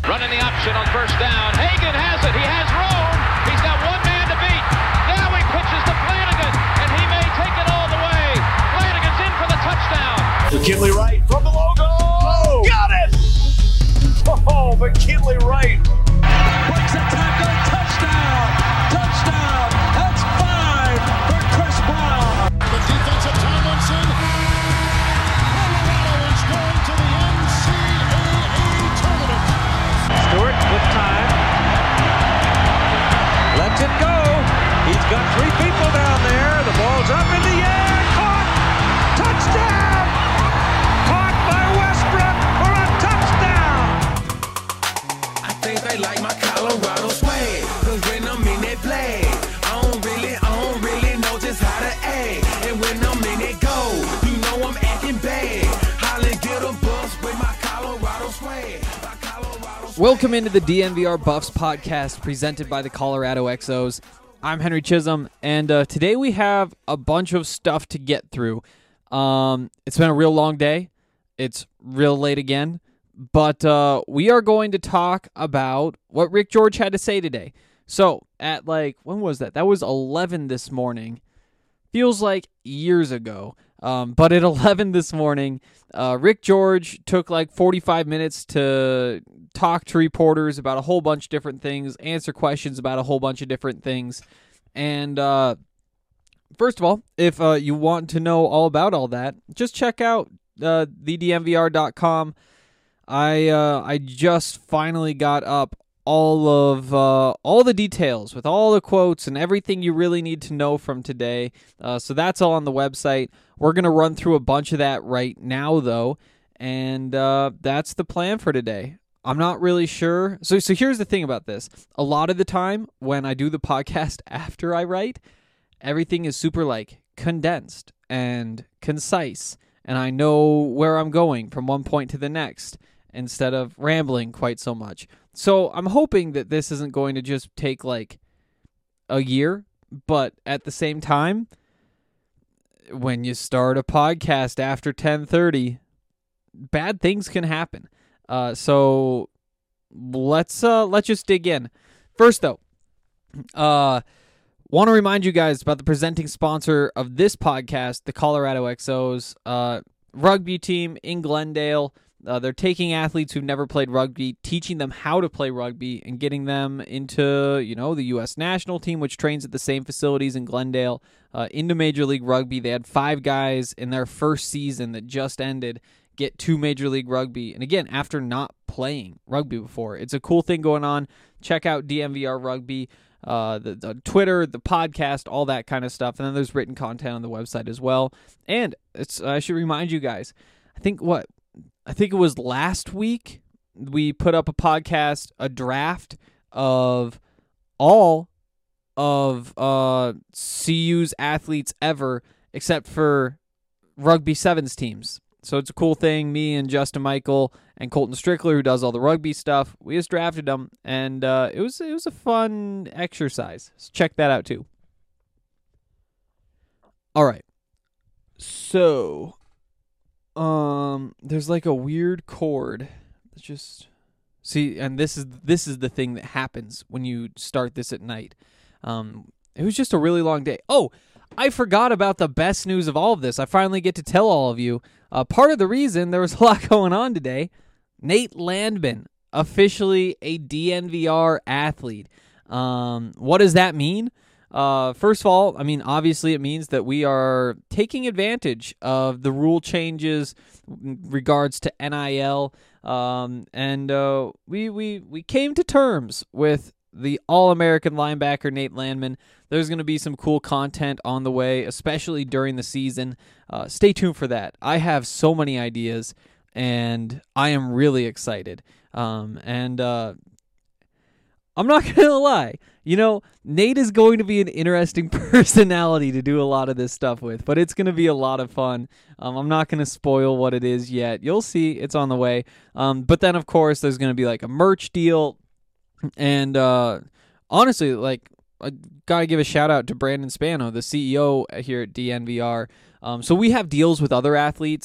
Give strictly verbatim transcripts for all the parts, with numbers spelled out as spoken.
Running the option on first down. Hagan has it. He has room. He's got one man to beat. Now he pitches to Flanagan, and he may take it all the way. Flanagan's in for the touchdown. McKinley Wright from the logo. Oh, got it! Oh, McKinley Wright. Breaks a tackle. Touchdown. Touchdown. That's five for Chris Brown. The defense of Tomlinson. Colorado is going to the N C double A tournament. Stewart with time. Lets it go. He's got three people down there. The ball's up in the air. Caught. Touchdown. Caught by Westbrook for a touchdown. I think they like my Colorado swag. Cause when I'm in that play, I don't really, I don't really know just how to act. And when I'm in that go, you know I'm acting bad. Holly get a bus with my Colorado swag. My Colorado swag. Welcome into the D N V R Buffs podcast presented by the Colorado X Os. I'm Henry Chisholm, and uh, today we have a bunch of stuff to get through. Um, it's been a real long day. It's real late again, but uh, we are going to talk about what Rick George had to say today. So at like, when was that? That was eleven this morning. Feels like years ago. Um, but at eleven this morning, uh, Rick George took like forty-five minutes to talk to reporters about a whole bunch of different things, answer questions about a whole bunch of different things. And uh, first of all, if uh, you want to know all about all that, just check out uh, the d n v r dot com. I uh, I just finally got up all of uh, all the details with all the quotes and everything you really need to know from today. Uh, so that's all on the website. We're going to run through a bunch of that right now, though, and uh, that's the plan for today. I'm not really sure. So, so here's the thing about this. A lot of the time when I do the podcast after I write, everything is super like condensed and concise, and I know where I'm going from one point to the next instead of rambling quite so much. So I'm hoping that this isn't going to just take like a year, but at the same time, when you start a podcast after ten thirty, bad things can happen. Uh, so let's uh, let's just dig in. First, though, uh, want to remind you guys about the presenting sponsor of this podcast, the Colorado X Os uh, rugby team in Glendale. Uh, they're taking athletes who've never played rugby, teaching them how to play rugby, and getting them into, you know, the U S national team, which trains at the same facilities in Glendale, uh, into Major League Rugby. They had five guys in their first season that just ended get to Major League Rugby. And again, after not playing rugby before. It's a cool thing going on. Check out D N V R Rugby, uh, the, the Twitter, the podcast, all that kind of stuff. And then there's written content on the website as well. And it's I should remind you guys, I think what, I think it was last week, we put up a podcast, a draft of all of uh, C U's athletes ever, except for Rugby Sevens teams. So it's a cool thing. Me and Justin Michael and Colton Strickler, who does all the rugby stuff, we just drafted them, and uh, it was it was a fun exercise. So check that out too. All right. So, um, there's like a weird chord. Let's just see, and this is this is the thing that happens when you start this at night. Um, it was just a really long day. Oh, I forgot about the best news of all of this. I finally get to tell all of you. Uh, part of the reason there was a lot going on today, Nate Landman, officially a D N V R athlete. Um, what does that mean? Uh, first of all, I mean, obviously it means that we are taking advantage of the rule changes in regards to N I L, um, and uh, we, we, we came to terms with the All-American linebacker Nate Landman. There's going to be some cool content on the way, especially during the season. Uh, stay tuned for that. I have so many ideas, and I am really excited. Um, and uh, I'm not going to lie. You know, Nate is going to be an interesting personality to do a lot of this stuff with, but it's going to be a lot of fun. Um, I'm not going to spoil what it is yet. You'll see. It's on the way. Um, but then, of course, there's going to be like a merch deal. And uh, honestly, like, I got to give a shout out to Brandon Spano, the C E O here at D N V R. Um, so we have deals with other athletes.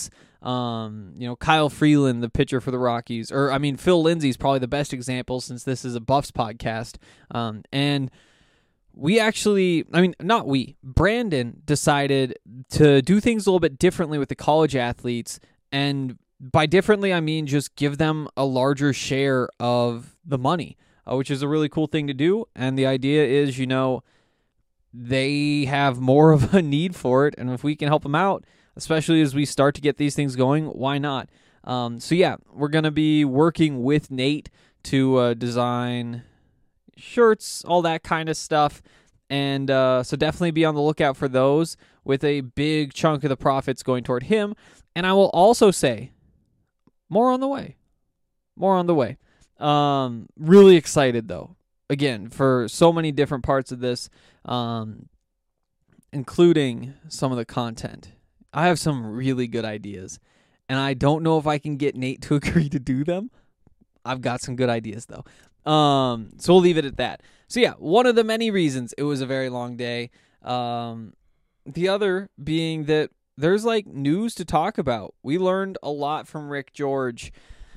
Um, you know, Kyle Freeland, the pitcher for the Rockies, or I mean, Phil Lindsay's probably the best example since this is a Buffs podcast. Um, and we actually, I mean, not we, Brandon decided to do things a little bit differently with the college athletes. And by differently, I mean just give them a larger share of the money, uh, which is a really cool thing to do. And the idea is, you know, they have more of a need for it. And if we can help them out, especially as we start to get these things going, why not? Um, so yeah, we're going to be working with Nate to uh, design shirts, all that kind of stuff. And uh, so definitely be on the lookout for those, with a big chunk of the profits going toward him. And I will also say, more on the way. More on the way. Um, really excited, though, again, for so many different parts of this, um, including some of the content. I have some really good ideas, and I don't know if I can get Nate to agree to do them. I've got some good ideas, though. Um, so we'll leave it at that. So yeah, one of the many reasons it was a very long day. Um, the other being that there's like news to talk about. We learned a lot from Rick George.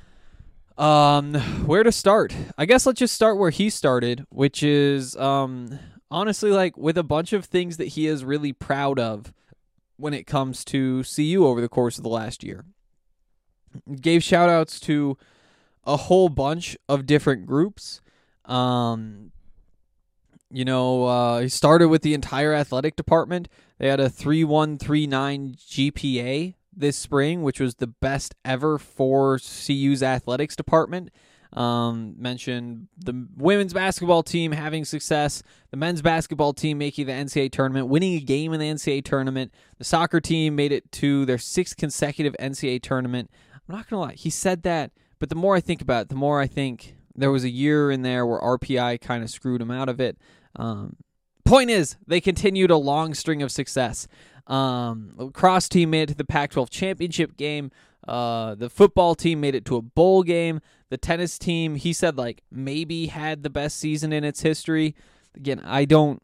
Um, where to start? I guess let's just start where he started, which is um, honestly like with a bunch of things that he is really proud of when it comes to C U over the course of the last year. Gave shout outs to a whole bunch of different groups. Um, you know, uh, he started with the entire athletic department. They had a three one three nine G P A this spring, which was the best ever for C U's athletics department. Um, mentioned the women's basketball team having success, the men's basketball team making the N C double A tournament, winning a game in the N C double A tournament. The soccer team made it to their sixth consecutive N C double A tournament. I'm not going to lie, he said that, but the more I think about it, the more I think there was a year in there where R P I kind of screwed him out of it. Um, point is, they continued a long string of success. Um, lacrosse team made it to the Pac twelve championship game. Uh, the football team made it to a bowl game. The tennis team, he said, like, maybe had the best season in its history. Again, I don't...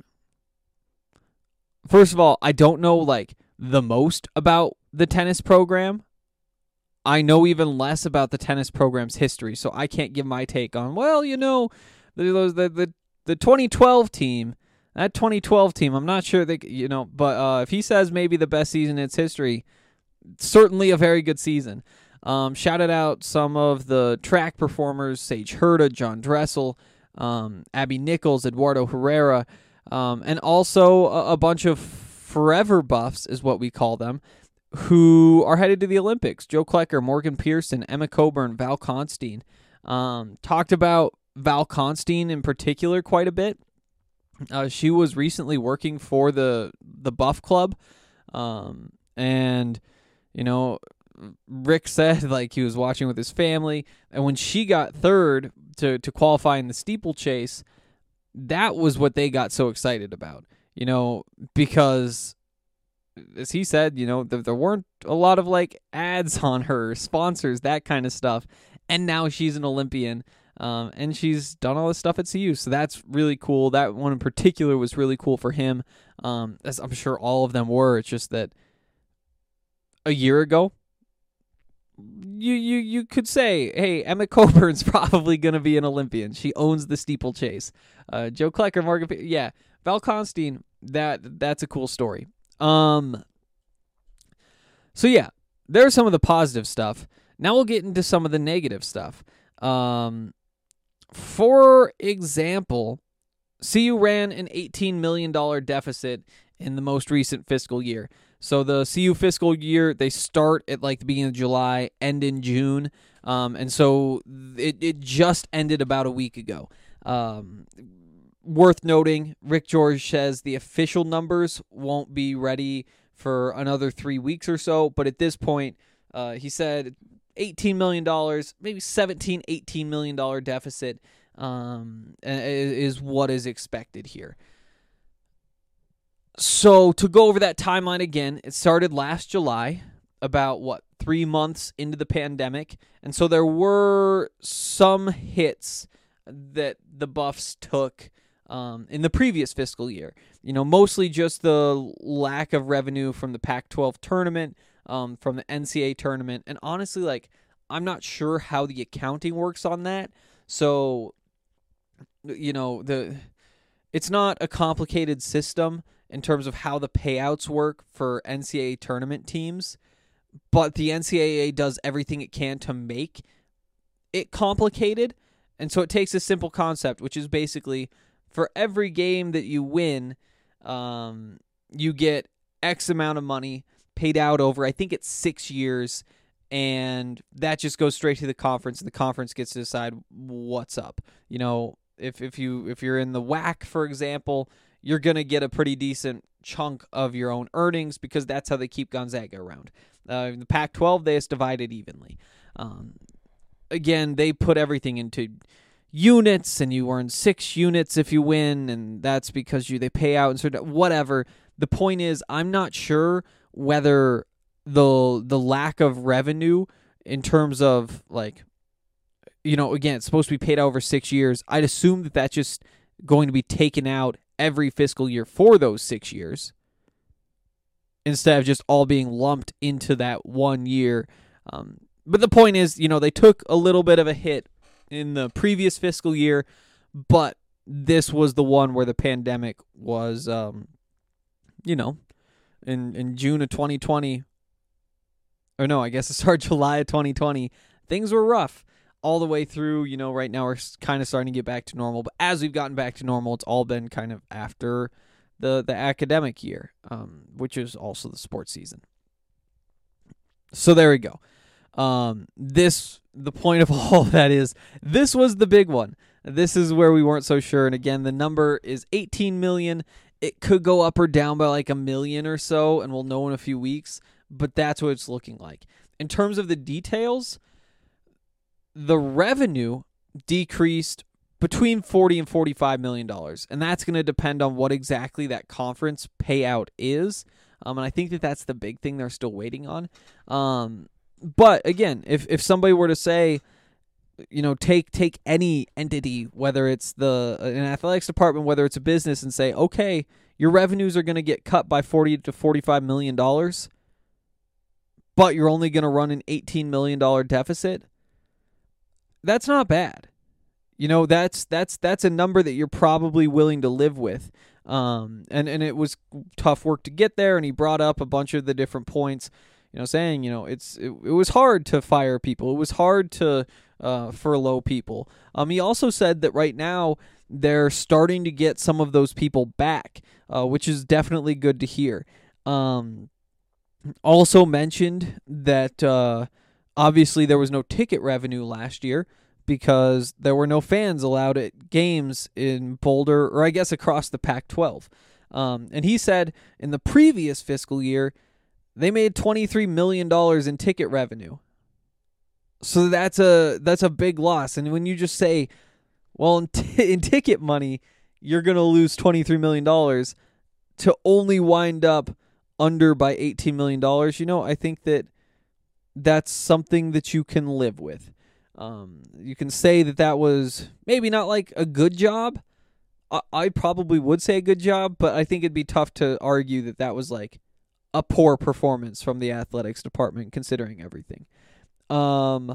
First of all, I don't know, like, the most about the tennis program. I know even less about the tennis program's history, so I can't give my take on, well, you know, the the the, the twenty twelve team, that twenty twelve team, I'm not sure, they, you know, but uh, if he says maybe the best season in its history, certainly a very good season. Um, shouted out some of the track performers, Sage Herda, John Dressel, um, Abby Nichols, Eduardo Herrera, um, and also a, a bunch of forever buffs is what we call them, who are headed to the Olympics. Joe Klecker, Morgan Pearson, Emma Coburn, Val Constein. Um, talked about Val Constein in particular quite a bit. Uh, she was recently working for the the Buff Club, um, and, you know, Rick said, like, he was watching with his family, and when she got third to, to qualify in the steeplechase, that was what they got so excited about, you know, because, as he said, you know, there, there weren't a lot of, like, ads on her, sponsors, that kind of stuff, and now she's an Olympian, um, and she's done all this stuff at C U, so that's really cool. That one in particular was really cool for him, um, as I'm sure all of them were. It's just that a year ago, You you you could say, hey, Emma Coburn's probably going to be an Olympian. She owns the steeplechase. Uh, Joe Klecker, Morgan, yeah, Val Constein, that that's a cool story. Um. So yeah, there's some of the positive stuff. Now we'll get into some of the negative stuff. Um, for example, C U ran an eighteen million dollars deficit in the most recent fiscal year. So the C U fiscal year, they start at like the beginning of July, end in June, um, and so it, it just ended about a week ago. Um, worth noting, Rick George says the official numbers won't be ready for another three weeks or so, but at this point, uh, he said eighteen million dollars, maybe seventeen, eighteen million dollars deficit um, is what is expected here. So to go over that timeline again, it started last July, about, what, three months into the pandemic. And so there were some hits that the Buffs took um, in the previous fiscal year. You know, mostly just the lack of revenue from the Pac twelve tournament, um, from the N C double A tournament. And honestly, like, I'm not sure how the accounting works on that. So, you know, the it's not a complicated system in terms of how the payouts work for N C double A tournament teams, but the N C double A does everything it can to make it complicated. And so it takes a simple concept, which is basically for every game that you win, um, you get X amount of money paid out over, I think it's six years, and that just goes straight to the conference, and the conference gets to decide what's up. You know, if if you if you're in the W A C, for example, you're gonna get a pretty decent chunk of your own earnings because that's how they keep Gonzaga around. Uh, in the Pac twelve, they just divide it evenly. Um, again, they put everything into units, and you earn six units if you win, and that's because you they pay out and sort of whatever. The point is, I'm not sure whether the the lack of revenue in terms of, like, you know, again, it's supposed to be paid out over six years. I'd assume that that's just going to be taken out every fiscal year for those six years instead of just all being lumped into that one year. Um, but the point is, you know, they took a little bit of a hit in the previous fiscal year, but this was the one where the pandemic was, um, you know, in, in June of twenty twenty, or no, I guess it started July of twenty twenty. Things were rough all the way through. You know, right now we're kind of starting to get back to normal, but as we've gotten back to normal, it's all been kind of after the, the academic year, um, which is also the sports season. So there we go. Um, this, the point of all of that is, this was the big one. This is where we weren't so sure. And again, the number is eighteen million. It could go up or down by like a million or so, and we'll know in a few weeks, but that's what it's looking like. In terms of the details, the revenue decreased between forty and forty-five million dollars, and that's going to depend on what exactly that conference payout is. Um, and I think that that's the big thing they're still waiting on. Um, but again, if if somebody were to say, you know, take take any entity, whether it's the an athletics department, whether it's a business, and say, okay, your revenues are going to get cut by forty to forty-five million dollars, but you're only going to run an eighteen million dollars deficit. That's not bad. You know, that's that's that's a number that you're probably willing to live with. Um, and, and it was tough work to get there, and he brought up a bunch of the different points, you know, saying, you know, it's it, it was hard to fire people. It was hard to uh, furlough people. Um, he also said that right now they're starting to get some of those people back, uh, which is definitely good to hear. Um, also mentioned that uh, obviously there was no ticket revenue last year because there were no fans allowed at games in Boulder, or I guess across the Pac twelve. Um, and he said in the previous fiscal year, they made twenty-three million dollars in ticket revenue. So that's a that's a big loss. And when you just say, well, in, t- in ticket money, you're going to lose twenty-three million dollars to only wind up under by eighteen million dollars, you know, I think that that's something that you can live with. Um, you can say that that was maybe not like a good job. I, I probably would say a good job, but I think it'd be tough to argue that that was like a poor performance from the athletics department, considering everything. Um,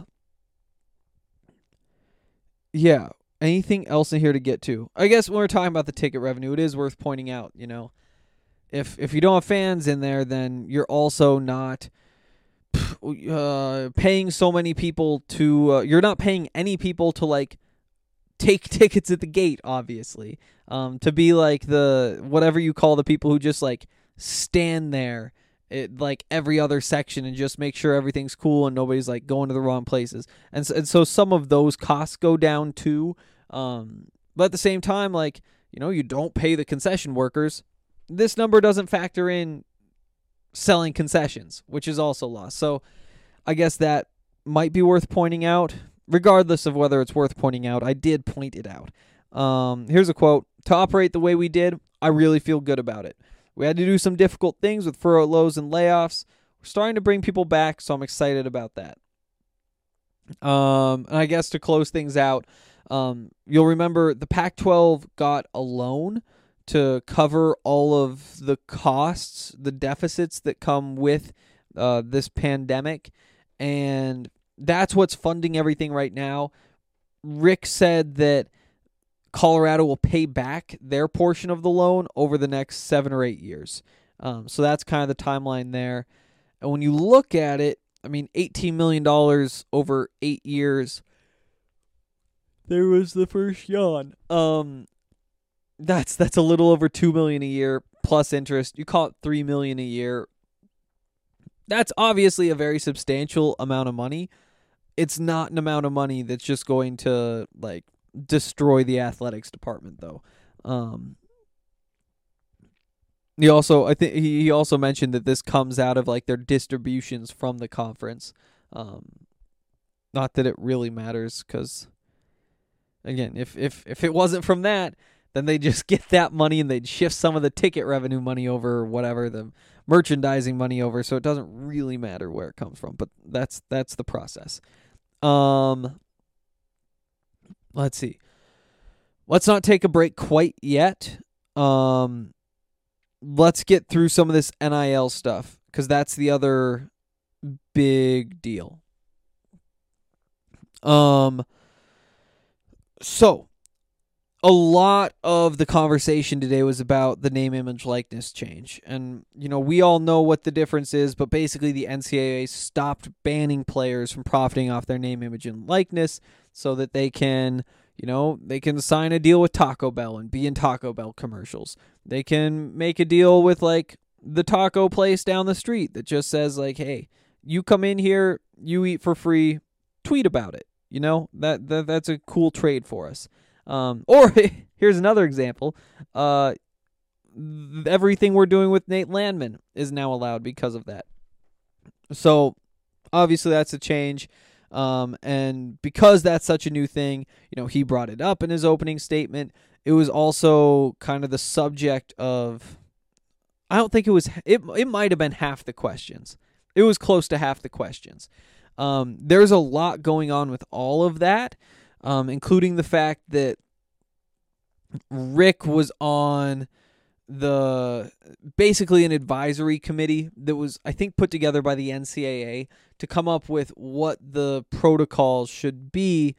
yeah. Anything else in here to get to? I guess when we're talking about the ticket revenue, it is worth pointing out, you know, if if you don't have fans in there, then you're also not uh, paying so many people to, uh, you're not paying any people to like take tickets at the gate, obviously, um, to be like the, whatever you call the people who just like stand there at like every other section and just make sure everything's cool and nobody's like going to the wrong places. And so, and so some of those costs go down too. Um, but at the same time, like, you know, you don't pay the concession workers. This number doesn't factor in selling concessions, which is also lost. So I guess that might be worth pointing out. Regardless of whether it's worth pointing out, I did point it out. Um, here's a quote. To operate the way we did, I really feel good about it. We had to do some difficult things with furloughs and layoffs. We're starting to bring people back, so I'm excited about that. Um, and I guess to close things out, um, you'll remember the Pac twelve got a loan to cover all of the costs, the deficits that come with uh, this pandemic, and that's what's funding everything right now. Rick said that Colorado will pay back their portion of the loan over the next seven or eight years. Um, so that's kind of the timeline there. And when you look at it, I mean, eighteen million dollars over eight years. There was the first yawn. Um, that's that's a little over two million dollars a year plus interest. You call it three million dollars a year. That's obviously a very substantial amount of money. It's not an amount of money that's just going to like destroy the athletics department, though. Um, he also, I think, he, he also mentioned that this comes out of like their distributions from the conference. Um, not that it really matters, because again, if if if it wasn't from that, then they just get that money and they'd shift some of the ticket revenue money over, or whatever, the merchandising money over. So it doesn't really matter where it comes from. But that's that's the process. Um, let's see. Let's not take a break quite yet. Um, let's get through some of this N I L stuff, because that's the other big deal. Um, so a lot of the conversation today was about the name, image, likeness change. And, you know, we all know what the difference is, but basically the N C double A stopped banning players from profiting off their name, image, and likeness so that they can, you know, they can sign a deal with Taco Bell and be in Taco Bell commercials. They can make a deal with, like, the taco place down the street that just says, like, hey, you come in here, you eat for free, tweet about it. You know, that, that that's a cool trade for us. Um, or here's another example. Uh, everything we're doing with Nate Landman is now allowed because of that. So obviously that's a change. Um, and because that's such a new thing, you know, he brought it up in his opening statement. It was also kind of the subject of, I don't think it was, it, it might have been half the questions. It was close to half the questions. Um, there's a lot going on with all of that. Um, including the fact that Rick was on the basically an advisory committee that was, I think, put together by the N C double A to come up with what the protocols should be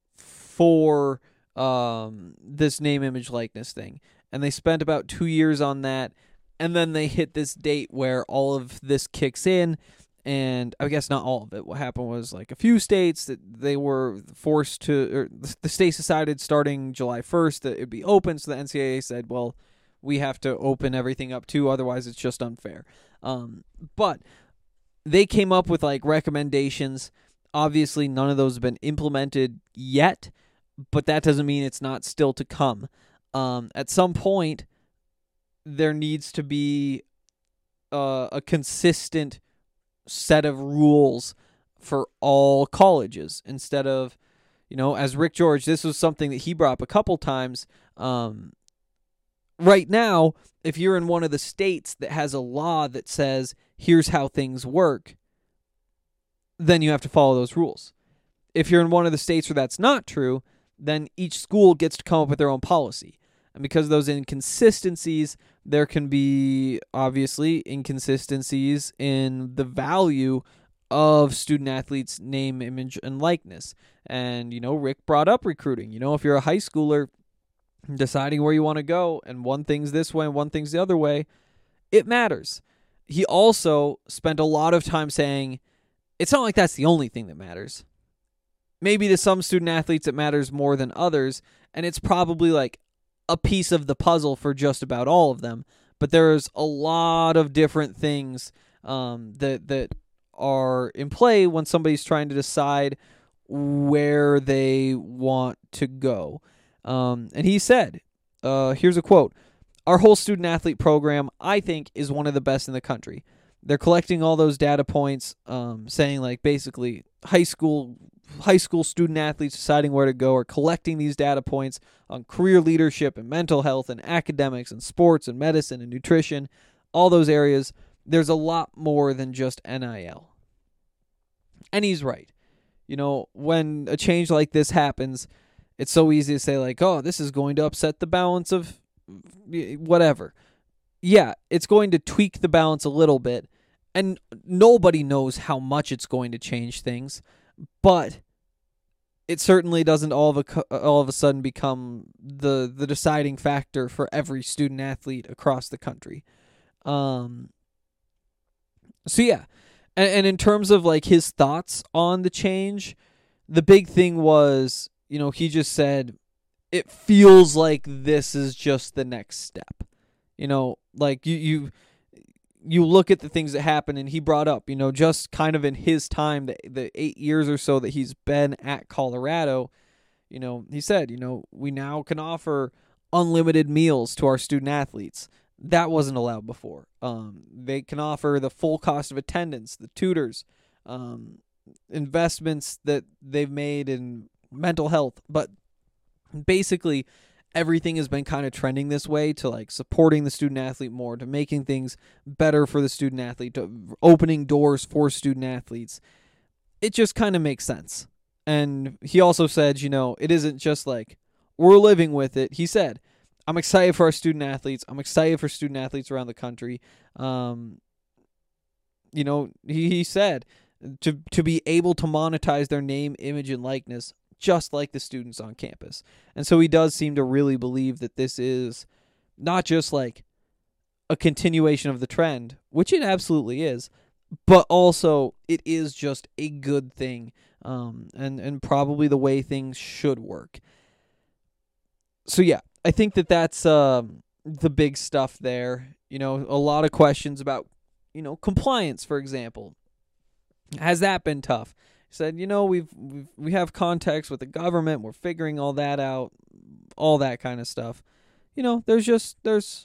for um, this name, image, likeness thing. And they spent about two years on that, and then they hit this date where all of this kicks in. And I guess not all of it. What happened was, like, a few states that they were forced to, or the states decided starting July first that it'd be open. So the N C double A said, well, we have to open everything up too. Otherwise, it's just unfair. Um, but they came up with, like, recommendations. Obviously, none of those have been implemented yet, but that doesn't mean it's not still to come. Um, at some point, there needs to be uh, a consistent set of rules for all colleges instead of, you know, as Rick George, this was something that he brought up a couple times. Um, right now, if you're in one of the states that has a law that says, here's how things work, then you have to follow those rules. If you're in one of the states where that's not true, then each school gets to come up with their own policy. And because of those inconsistencies, there can be, obviously, inconsistencies in the value of student-athletes' name, image, and likeness. And, you know, Rick brought up recruiting. You know, if you're a high schooler deciding where you want to go, and one thing's this way and one thing's the other way, it matters. He also spent a lot of time saying, it's not like that's the only thing that matters. Maybe to some student-athletes it matters more than others, and it's probably like a piece of the puzzle for just about all of them, but there's a lot of different things um, that that are in play when somebody's trying to decide where they want to go. Um, and he said, uh, here's a quote, "Our whole student-athlete program, I think, is one of the best in the country. They're collecting all those data points, um, saying, like, basically high school high school student athletes deciding where to go are collecting these data points on career leadership and mental health and academics and sports and medicine and nutrition, all those areas. There's a lot more than just N I L." And he's right. You know, when a change like this happens, it's so easy to say, like, oh, this is going to upset the balance of whatever. Yeah, it's going to tweak the balance a little bit. and nobody knows how much it's going to change things, but it certainly doesn't all of a all of a sudden become the the deciding factor for every student athlete across the country. Um. So yeah, and, and in terms of like his thoughts on the change, the big thing was, you know, he just said it feels like this is just the next step. You know, like you you. You look at the things that happen, and he brought up, you know, just kind of in his time, the, the eight years or so that he's been at Colorado, you know, he said, you know, we now can offer unlimited meals to our student athletes. That wasn't allowed before. Um, they can offer the full cost of attendance, the tutors, um, investments that they've made in mental health. But basically, everything has been kind of trending this way to like supporting the student athlete more, to making things better for the student athlete, to opening doors for student athletes. It just kind of makes sense. And he also said, you know, it isn't just like we're living with it. He said, I'm excited for our student athletes. I'm excited for student athletes around the country. Um, you know, he, he said to to be able to monetize their name, image, and likeness just like the students on campus. And so he does seem to really believe that this is not just like a continuation of the trend, which it absolutely is, but also it is just a good thing, um, and, and probably the way things should work. So yeah, I think that that's um, the big stuff there. You know, a lot of questions about, you know, compliance, for example. Has that been tough? Said, you know, we've, we've we have contacts with the government. We're figuring all that out, all that kind of stuff. You know, there's just there's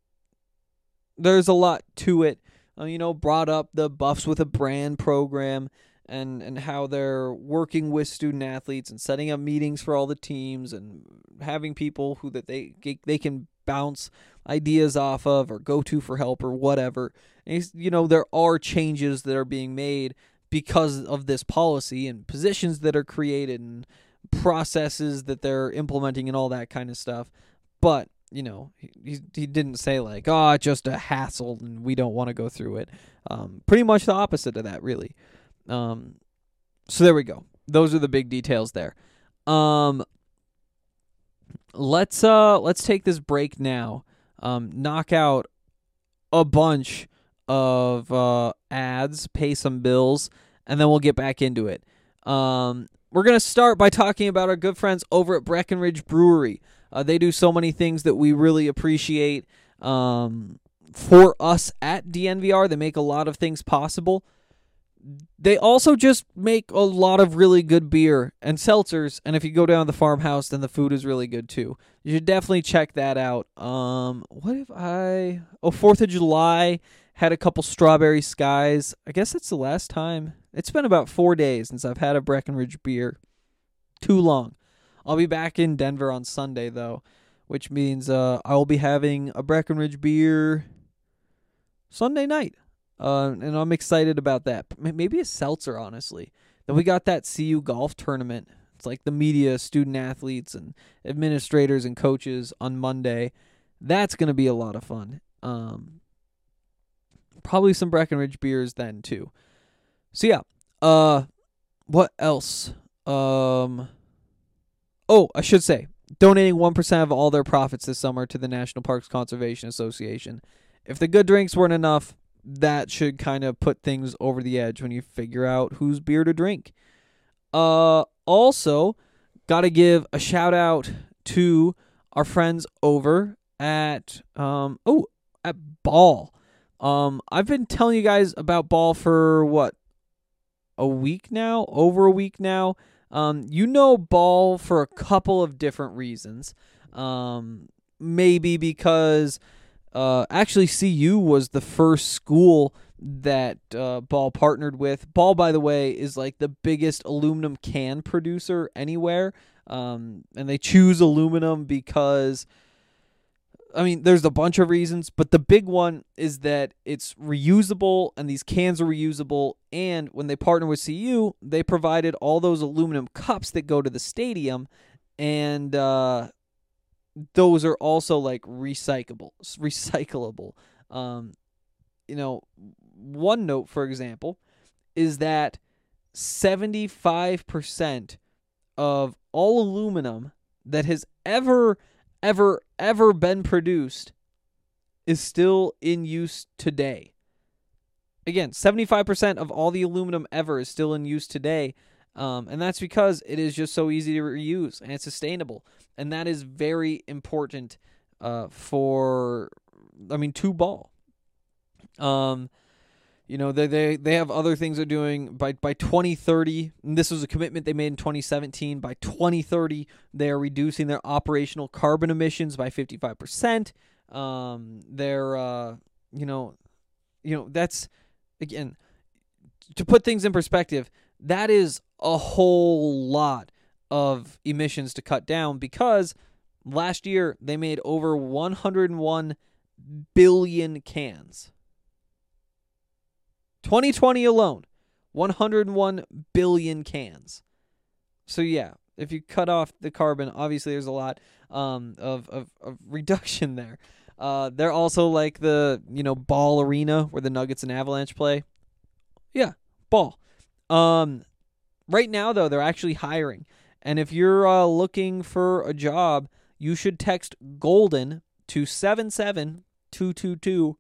there's a lot to it. Uh, you know, brought up the Buffs with a Brand program and and how they're working with student athletes and setting up meetings for all the teams and having people who that they they can bounce ideas off of or go to for help or whatever. And you know, there are changes that are being made because of this policy and positions that are created and processes that they're implementing and all that kind of stuff. But, you know, he he didn't say like, oh, it's just a hassle and we don't want to go through it. Um, pretty much the opposite of that, really. Um, so there we go. Those are the big details there. Um, let's uh let's take this break now. Um, knock out a bunch of uh, ads, pay some bills, and then we'll get back into it. Um, we're going to start by talking about our good friends over at Breckenridge Brewery. Uh, they do so many things that we really appreciate um, for us at D N V R. They make a lot of things possible. They also just make a lot of really good beer and seltzers, and if you go down to the farmhouse, then the food is really good too. You should definitely check that out. Um, what if I... Oh, fourth of July... Had a couple Strawberry Skies. I guess that's the last time. It's been about four days since I've had a Breckenridge beer. Too long. I'll be back in Denver on Sunday, though, which means uh, I'll be having a Breckenridge beer Sunday night. Uh, and I'm excited about that. Maybe a seltzer, honestly. Then we got that C U golf tournament. It's like the media, student athletes, and administrators and coaches on Monday. That's going to be a lot of fun. Um... Probably some Breckenridge beers then too. So yeah, uh, what else? Um, oh, I should say, donating one percent of all their profits this summer to the National Parks Conservation Association. If the good drinks weren't enough, that should kind of put things over the edge when you figure out whose beer to drink. Uh, also, got to give a shout out to our friends over at um oh at Ball. Um, I've been telling you guys about Ball for, what, a week now? Over a week now? Um, you know Ball for a couple of different reasons. Um, maybe because, uh, actually C U was the first school that uh, Ball partnered with. Ball, by the way, is like the biggest aluminum can producer anywhere. Um, and they choose aluminum because... I mean, there's a bunch of reasons, but the big one is that it's reusable, and these cans are reusable, and when they partner with C U, they provided all those aluminum cups that go to the stadium, and uh, those are also, like, recyclable, recyclable. Um, you know, one note, for example, is that seventy-five percent of all aluminum that has ever, ever, ever been produced is still in use today. Again, seventy-five percent of all the aluminum ever is still in use today, um, and that's because it is just so easy to reuse, and it's sustainable. And that is very important uh, for, I mean, to Ball. Um, you know, they, they they have other things they're doing. By, by twenty thirty, and this was a commitment they made in twenty seventeen, by twenty thirty, they are reducing their operational carbon emissions by fifty-five percent. Um, they're, uh, you know, you know, that's, again, to put things in perspective, that is a whole lot of emissions to cut down, because last year they made over one hundred one billion cans. twenty twenty alone, one hundred one billion cans. So yeah, if you cut off the carbon, obviously there's a lot um, of, of, of reduction there. Uh, they're also like the, you know, Ball Arena where the Nuggets and Avalanche play. Yeah, Ball. Um, right now, though, they're actually hiring. And if you're uh, looking for a job, you should text GOLDEN to seven seven two two two.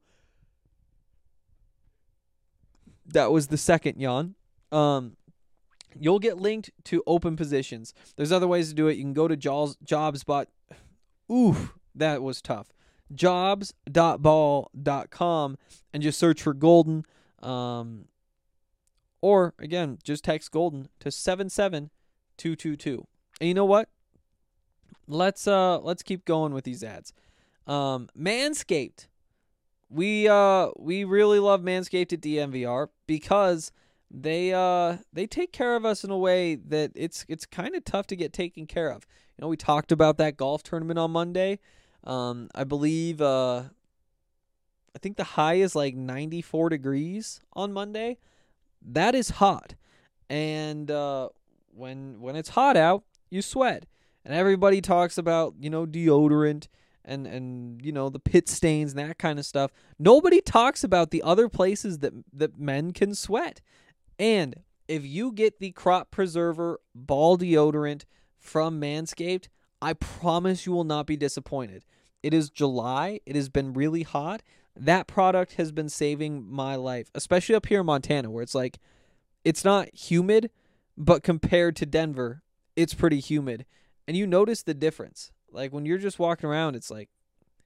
That was the second yawn. Um, you'll get linked to open positions. There's other ways to do it. You can go to jobs, jobs bot. Ooh, that was tough. jobs dot ball dot com and just search for Golden. Um, or, again, just text Golden to seven seven two two two. And you know what? Let's uh let's keep going with these ads. Um, Manscaped. We uh we really love Manscaped at D M V R because they uh they take care of us in a way that it's it's kind of tough to get taken care of. You know, we talked about that golf tournament on Monday. Um, I believe uh I think the high is like ninety-four degrees on Monday. That is hot. And uh when when it's hot out, you sweat. And everybody talks about, you know, deodorant and, and you know, the pit stains and that kind of stuff. Nobody talks about the other places that that men can sweat. And if you get the Crop Preserver Ball Deodorant from Manscaped, I promise you will not be disappointed. It is July. It has been really hot. That product has been saving my life, especially up here in Montana, where it's like, it's not humid, but compared to Denver, it's pretty humid. And you notice the difference. Like, when you're just walking around, it's like,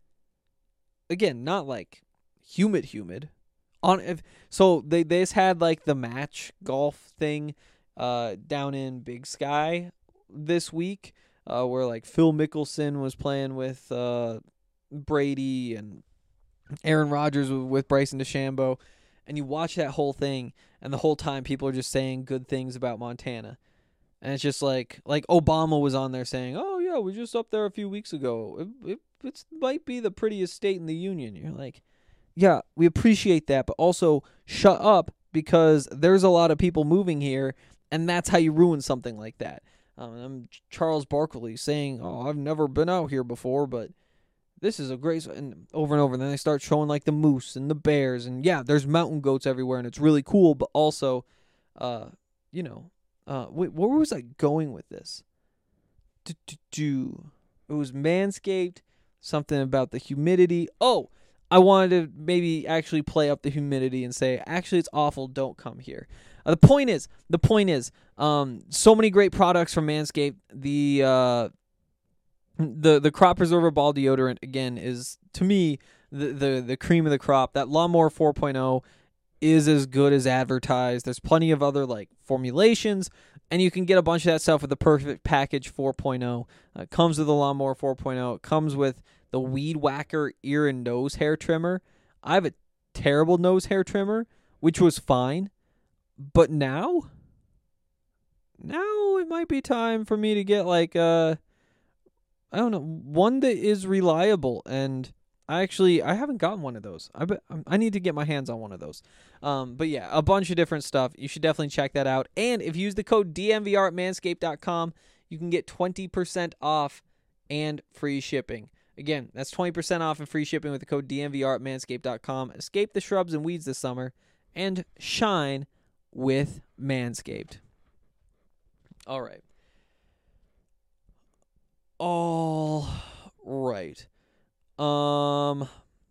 again, not like humid, humid. On if, So they, they just had, like, the match golf thing uh, down in Big Sky this week, uh, where, like, Phil Mickelson was playing with uh, Brady and Aaron Rodgers with Bryson DeChambeau. And you watch that whole thing, and the whole time people are just saying good things about Montana. And it's just like, like Obama was on there saying, oh, yeah, we were just up there a few weeks ago. It, it it's, might be the prettiest state in the union. You're like, yeah, we appreciate that, but also shut up, because there's a lot of people moving here, and that's how you ruin something like that. Um, I'm Charles Barkley saying, oh, I've never been out here before, but this is a great, and over and over, and then they start showing like the moose and the bears, and yeah, there's mountain goats everywhere, and it's really cool, but also, uh, you know, uh, wait, where was I going with this? Do it was Manscaped, something about the humidity. Oh, I wanted to maybe actually play up the humidity and say, actually, it's awful. Don't come here. Uh, the point is, the point is, um, so many great products from Manscaped. The uh. The the Crop Preserver Ball Deodorant, again, is, to me, the, the, the cream of the crop. That Lawnmower four point oh is as good as advertised. There's plenty of other, like, formulations, and you can get a bunch of that stuff with the Perfect Package four point oh. Uh, it comes with the Lawnmower four point oh. It comes with the Weed Whacker ear and nose hair trimmer. I have a terrible nose hair trimmer, which was fine, but now, now it might be time for me to get, like, uh, I don't know, one that is reliable, and I actually, I haven't gotten one of those. I bet, I need to get my hands on one of those. Um, but yeah, a bunch of different stuff. You should definitely check that out. And if you use the code D M V R at manscaped dot com, you can get twenty percent off and free shipping. Again, that's twenty percent off and free shipping with the code D M V R at manscaped dot com. Escape the shrubs and weeds this summer and shine with Manscaped. All right. All right. Um.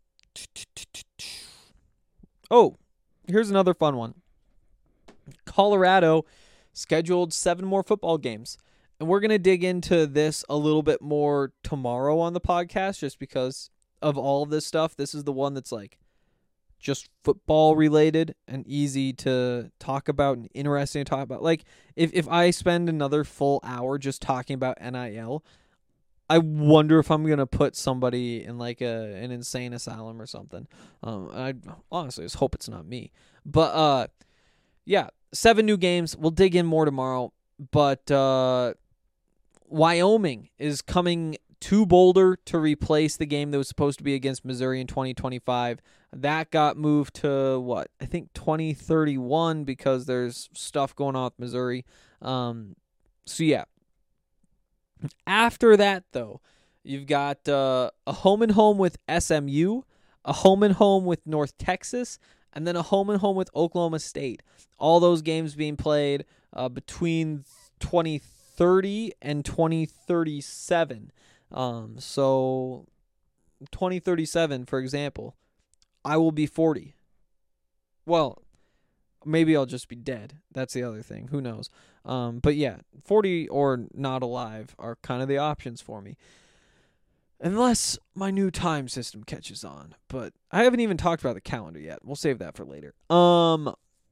Oh, here's another fun one. Colorado scheduled seven more football games. And we're going to dig into this a little bit more tomorrow on the podcast just because of all of this stuff. This is the one that's like just football related and easy to talk about and interesting to talk about. Like if, if I spend another full hour just talking about N I L, I wonder if I'm going to put somebody in like a an insane asylum or something. Um, I honestly just hope it's not me. But uh, yeah, seven new games. We'll dig in more tomorrow. But uh, Wyoming is coming to Boulder to replace the game that was supposed to be against Missouri in twenty twenty-five. That got moved to, what, I think twenty thirty-one because there's stuff going on with Missouri. Um, so, yeah. After that, though, you've got uh, a home and home with S M U, a home and home with North Texas, and then a home and home with Oklahoma State. All those games being played uh, between twenty thirty and twenty thirty-seven. Um, so twenty thirty-seven, for example, I will be forty. Well, maybe I'll just be dead. That's the other thing. Who knows? Um, but yeah, forty or not alive are kind of the options for me. Unless my new time system catches on. But I haven't even talked about the calendar yet. We'll save that for later. Um,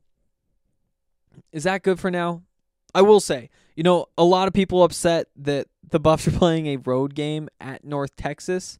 is that good for now? I will say, you know, a lot of people upset that the Buffs are playing a road game at North Texas.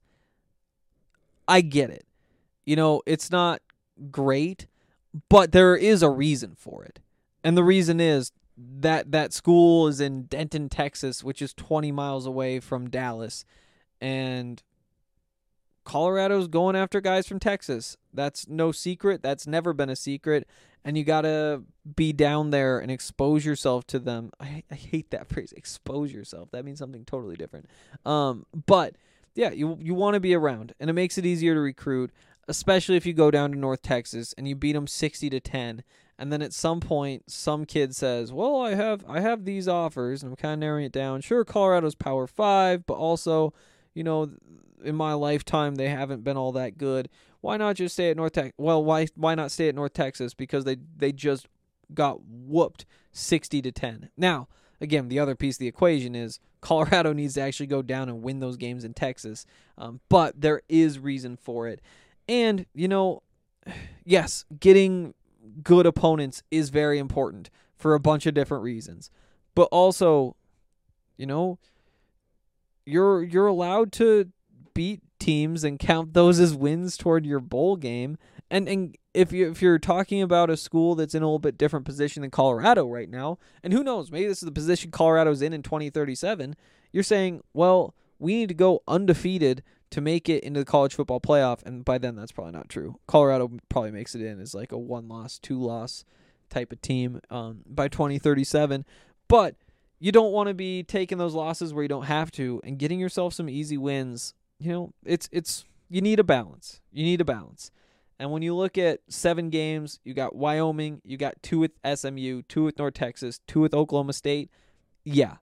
I get it. You know, it's not great, but there is a reason for it. And the reason is that that school is in Denton, Texas, which is twenty miles away from Dallas. And Colorado's going after guys from Texas. That's no secret. That's never been a secret. And you got to be down there and expose yourself to them. I, I hate that phrase, expose yourself. That means something totally different. Um, but, yeah, you you want to be around. And it makes it easier to recruit, especially if you go down to North Texas and you beat them sixty to ten. And then at some point, some kid says, well, I have I have these offers, and I'm kind of narrowing it down. Sure, Colorado's Power five, but also, you know, in my lifetime, they haven't been all that good. Why not just stay at North Texas? Well, why why not stay at North Texas? Because they, they just got whooped sixty to ten. Now, again, the other piece of the equation is Colorado needs to actually go down and win those games in Texas. Um, but there is reason for it. And, you know, yes, getting good opponents is very important for a bunch of different reasons. But also, you know, you're you're allowed to beat teams and count those as wins toward your bowl game. And and if you if you're talking about a school that's in a little bit different position than Colorado right now, and who knows, maybe this is the position Colorado's in in twenty thirty-seven, you're saying, well, we need to go undefeated to make it into the college football playoff, and by then that's probably not true. Colorado probably makes it in as like a one-loss, two-loss type of team um, by twenty thirty-seven. But you don't want to be taking those losses where you don't have to and getting yourself some easy wins. You know, it's it's you need a balance. You need a balance. And when you look at seven games, you got Wyoming, you got two with S M U, two with North Texas, two with Oklahoma State. Yeah,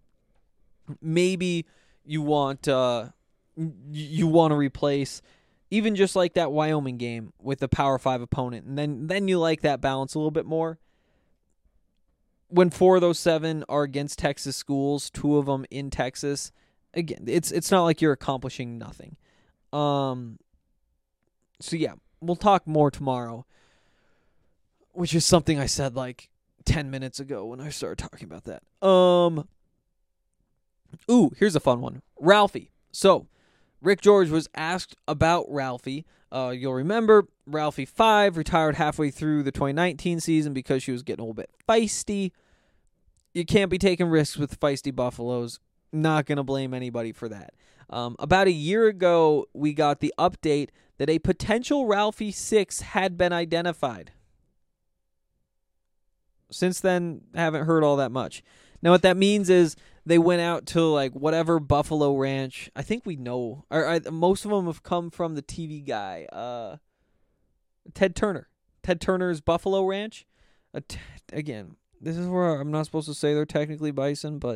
maybe you want uh, you want to replace even just like that Wyoming game with a Power Five opponent, and then then you like that balance a little bit more. When four of those seven are against Texas schools, two of them in Texas, again, it's it's not like you're accomplishing nothing. Um. So yeah, we'll talk more tomorrow, which is something I said like ten minutes ago when I started talking about that. Um. Ooh, here's a fun one. Ralphie. So, Rick George was asked about Ralphie. Uh, you'll remember Ralphie five retired halfway through the twenty nineteen season because she was getting a little bit feisty. You can't be taking risks with feisty Buffaloes. Not going to blame anybody for that. Um, about a year ago, we got the update that a potential Ralphie six had been identified. Since then, haven't heard all that much. Now, what that means is they went out to like whatever Buffalo ranch. I think we know. Or, or most of them have come from the T V guy, uh, Ted Turner. Ted Turner's Buffalo Ranch. Uh, t- again, this is where I'm not supposed to say they're technically bison, but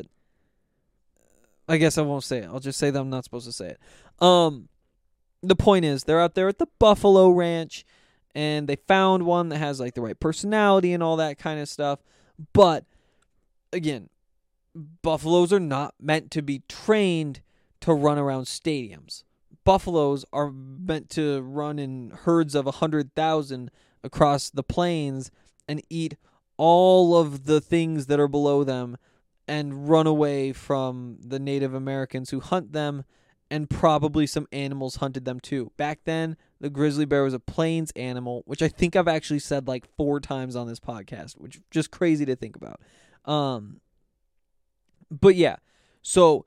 I guess I won't say it. I'll just say that I'm not supposed to say it. Um, the point is, they're out there at the Buffalo Ranch, and they found one that has like the right personality and all that kind of stuff. But again, buffaloes are not meant to be trained to run around stadiums. Buffaloes are meant to run in herds of one hundred thousand across the plains and eat all of the things that are below them and run away from the Native Americans who hunt them, and probably some animals hunted them too. Back then, the grizzly bear was a plains animal, which I think I've actually said like four times on this podcast, which is just crazy to think about. Um, but yeah, so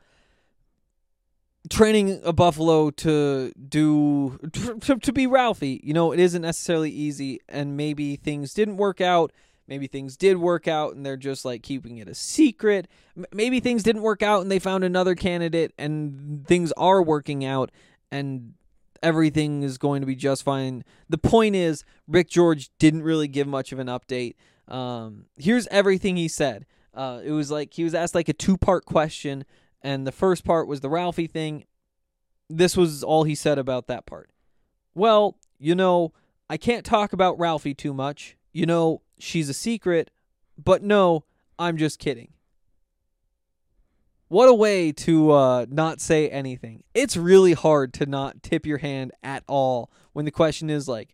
training a buffalo to do to, to be Ralphie, you know, it isn't necessarily easy, and maybe things didn't work out. Maybe things did work out and they're just like keeping it a secret. M- maybe things didn't work out and they found another candidate and things are working out and everything is going to be just fine. The point is, Rick George didn't really give much of an update. Um, here's everything he said. Uh, it was like he was asked like a two-part question, and the first part was the Ralphie thing. This was all he said about that part. Well, you know, I can't talk about Ralphie too much. You know, she's a secret, but no, I'm just kidding. What a way to uh, not say anything. It's really hard to not tip your hand at all when the question is like,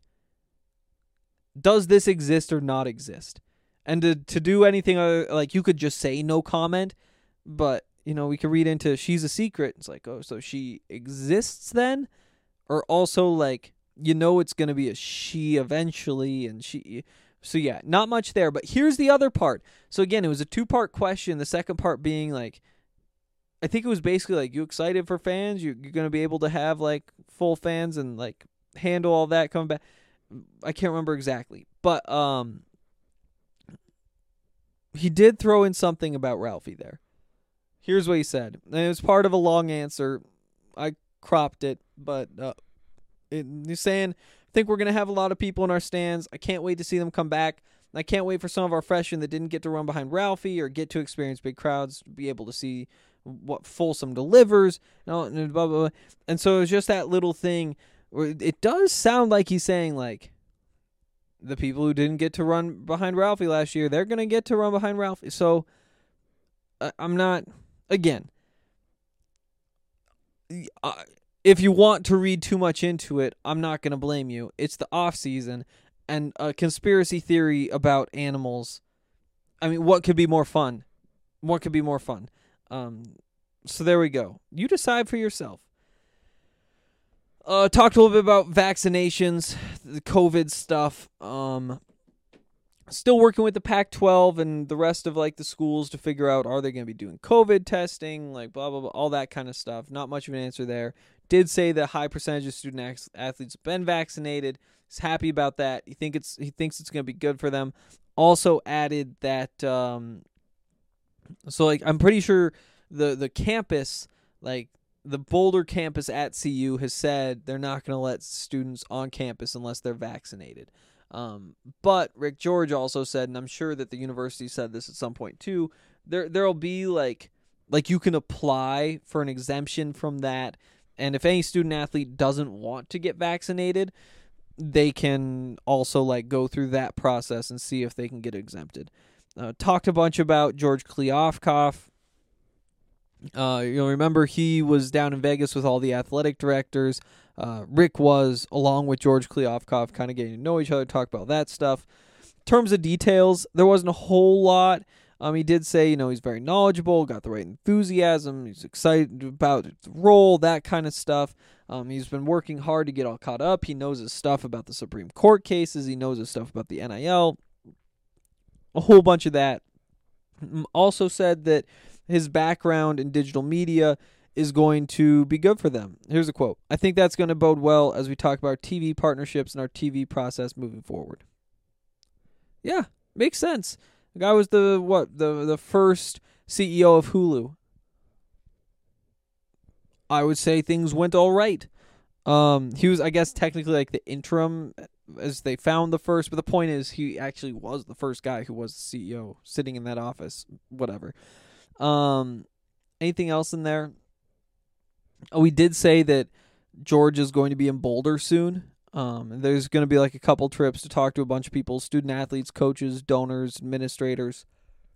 does this exist or not exist? And to, to do anything other, like you could just say no comment, but, you know, we could read into she's a secret. It's like, oh, so she exists then? Or also like, you know, it's going to be a she eventually, and she... So, yeah, not much there. But here's the other part. So, again, it was a two-part question. The second part being, like, I think it was basically, like, you excited for fans? You, you're going to be able to have, like, full fans and, like, handle all that coming back? I can't remember exactly. But um, he did throw in something about Ralphie there. Here's what he said. And it was part of a long answer. I cropped it, but uh, it, he's saying... I think we're going to have a lot of people in our stands. I can't wait to see them come back. I can't wait for some of our freshmen that didn't get to run behind Ralphie or get to experience big crowds to be able to see what Folsom delivers. And, blah, blah, blah. And so it's just that little thing where it does sound like he's saying, like, the people who didn't get to run behind Ralphie last year, they're going to get to run behind Ralphie. So uh, I'm not, again, I, if you want to read too much into it, I'm not going to blame you. It's the off season, and a conspiracy theory about animals. I mean, what could be more fun? What could be more fun? Um, so there we go. You decide for yourself. Uh, talked a little bit about vaccinations, the COVID stuff. Um, still working with the Pac twelve and the rest of like the schools to figure out, are they going to be doing COVID testing, like blah blah blah, all that kind of stuff. Not much of an answer there. Did say that high percentage of student athletes have been vaccinated. He's happy about that. He think it's he thinks it's going to be good for them. Also added that um, so like I'm pretty sure the the campus, like the Boulder campus at C U, has said they're not going to let students on campus unless they're vaccinated. Um, but Rick George also said, and I'm sure that the university said this at some point too, there there'll be like like you can apply for an exemption from that. And if any student athlete doesn't want to get vaccinated, they can also like go through that process and see if they can get exempted. Uh, talked a bunch about George Kliavkoff. Uh, you'll remember he was down in Vegas with all the athletic directors. Uh, Rick was, along with George Kliavkoff, kind of getting to know each other, talk about that stuff. In terms of details, there wasn't a whole lot. Um, he did say, you know, he's very knowledgeable, got the right enthusiasm, he's excited about the role, that kind of stuff. Um, he's been working hard to get all caught up. He knows his stuff about the Supreme Court cases. He knows his stuff about the N I L. A whole bunch of that. Also said that his background in digital media is going to be good for them. Here's a quote. I think that's going to bode well as we talk about our T V partnerships and our T V process moving forward. Yeah, makes sense. The guy was the what the the first C E O of Hulu. I would say things went all right. Um, he was, I guess, technically like the interim as they found the first, but the point is he actually was the first guy who was the C E O sitting in that office. Whatever. Um, anything else in there? Oh, we did say that George is going to be in Boulder soon. Um, and there's going to be like a couple trips to talk to a bunch of people, student athletes, coaches, donors, administrators.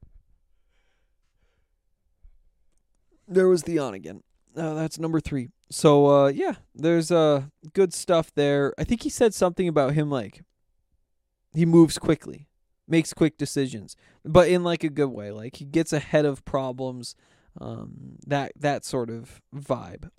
There was the on again. Uh, that's number three. So, uh, yeah, there's uh, good stuff there. I think he said something about him, like, he moves quickly, makes quick decisions, but in, like, a good way. Like, he gets ahead of problems, um, that that sort of vibe.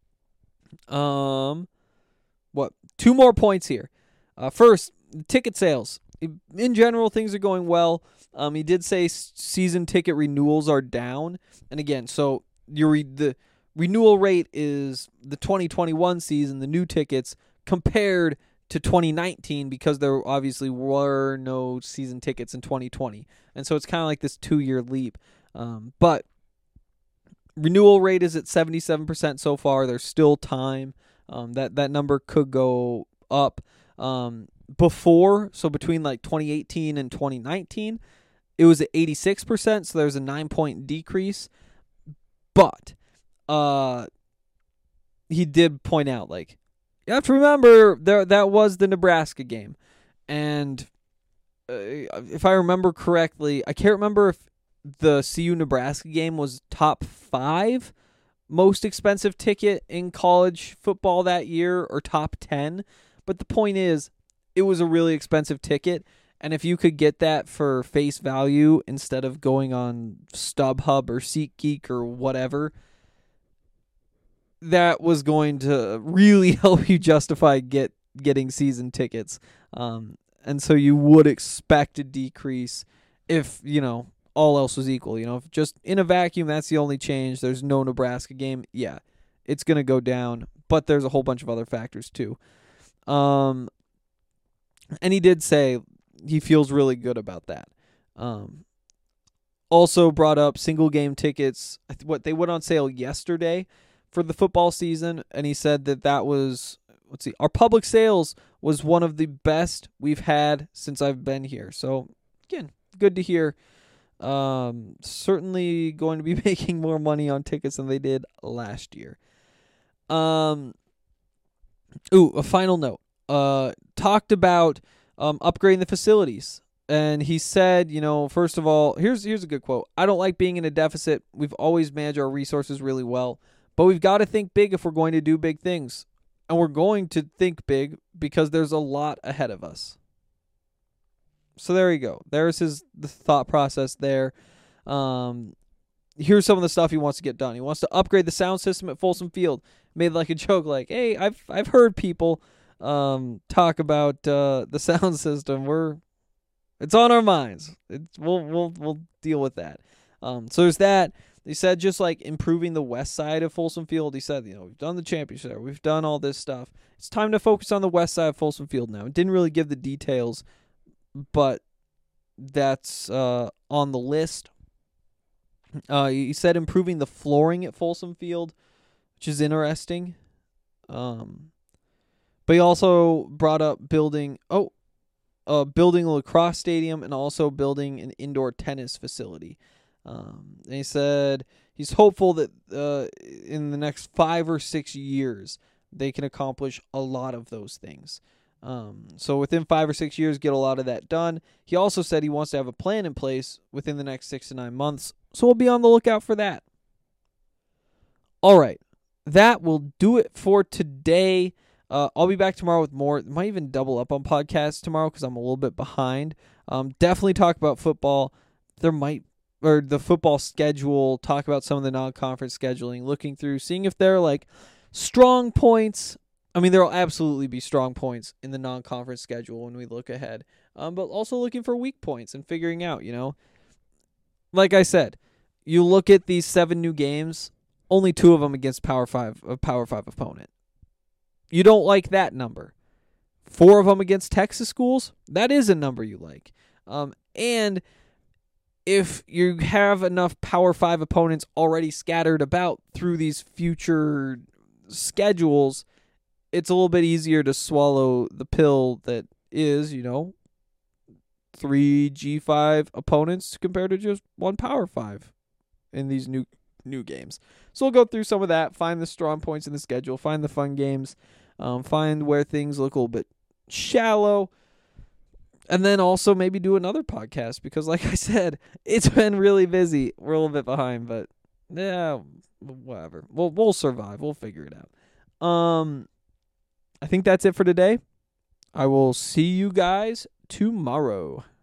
Um, what? Two more points here. Uh, first, ticket sales. In general, things are going well. Um, he did say season ticket renewals are down. And again, so you re- the renewal rate is the twenty twenty-one season, the new tickets, compared to twenty nineteen because there obviously were no season tickets in twenty twenty. And so it's kind of like this two-year leap. Um, but renewal rate is at seventy-seven percent so far. There's still time. Um, that, that number could go up. Um, before, so between like twenty eighteen and twenty nineteen, it was at eighty-six percent, so there's a nine-point decrease. But uh, he did point out, like, you have to remember there that was the Nebraska game. And uh, if I remember correctly, I can't remember if the C U-Nebraska game was top five most expensive ticket in college football that year or top ten. But the point is, it was a really expensive ticket. And if you could get that for face value instead of going on StubHub or SeatGeek or whatever, that was going to really help you justify get getting season tickets. Um, and so you would expect a decrease if, you know, all else was equal. You know, if just in a vacuum, that's the only change. There's no Nebraska game. Yeah, it's going to go down. But there's a whole bunch of other factors too. Um, and he did say he feels really good about that. Um, also brought up single game tickets. What they went on sale yesterday for the football season, and he said that that was, let's see, our public sales was one of the best we've had since I've been here. So again, good to hear. Um, certainly going to be making more money on tickets than they did last year. Um, ooh, a final note. Uh, talked about um upgrading the facilities, and he said, you know, first of all, here's here's a good quote. I don't like being in a deficit. We've always managed our resources really well, but we've got to think big if we're going to do big things, and we're going to think big because there's a lot ahead of us. So there you go. There's his the thought process there. Um, here's some of the stuff he wants to get done. He wants to upgrade the sound system at Folsom Field. Made like a joke, like, "Hey, I've I've heard people um, talk about uh, the sound system. We're it's on our minds. It's, we'll we'll we'll deal with that." Um, so there's that. He said just like improving the west side of Folsom Field. He said, you know, we've done the championship there. We've done all this stuff. It's time to focus on the west side of Folsom Field now. It didn't really give the details, but that's uh, on the list. Uh, he said improving the flooring at Folsom Field, which is interesting. Um, but he also brought up building oh, uh, building a lacrosse stadium and also building an indoor tennis facility. Um, and he said he's hopeful that uh, in the next five or six years they can accomplish a lot of those things. Um, so within five or six years, get a lot of that done. He also said he wants to have a plan in place within the next six to nine months. So we'll be on the lookout for that. All right. That will do it for today. Uh, I'll be back tomorrow with more. Might even double up on podcasts tomorrow because I'm a little bit behind. Um, definitely talk about football. There might, or the football schedule, talk about some of the non-conference scheduling, looking through, seeing if there are like strong points. I mean, there will absolutely be strong points in the non-conference schedule when we look ahead, um, but also looking for weak points and figuring out, you know, like I said, you look at these seven new games, only two of them against Power Five, a Power Five opponent. You don't like that number. Four of them against Texas schools, that is a number you like. Um, and if you have enough Power Five opponents already scattered about through these future schedules, it's a little bit easier to swallow the pill that is, you know, three G five opponents compared to just one Power five in these new new games. So we'll go through some of that, find the strong points in the schedule, find the fun games, um, find where things look a little bit shallow, and then also maybe do another podcast because, like I said, it's been really busy. We're a little bit behind, but yeah, whatever. We'll we'll survive. We'll figure it out. Um, I think that's it for today. I will see you guys tomorrow.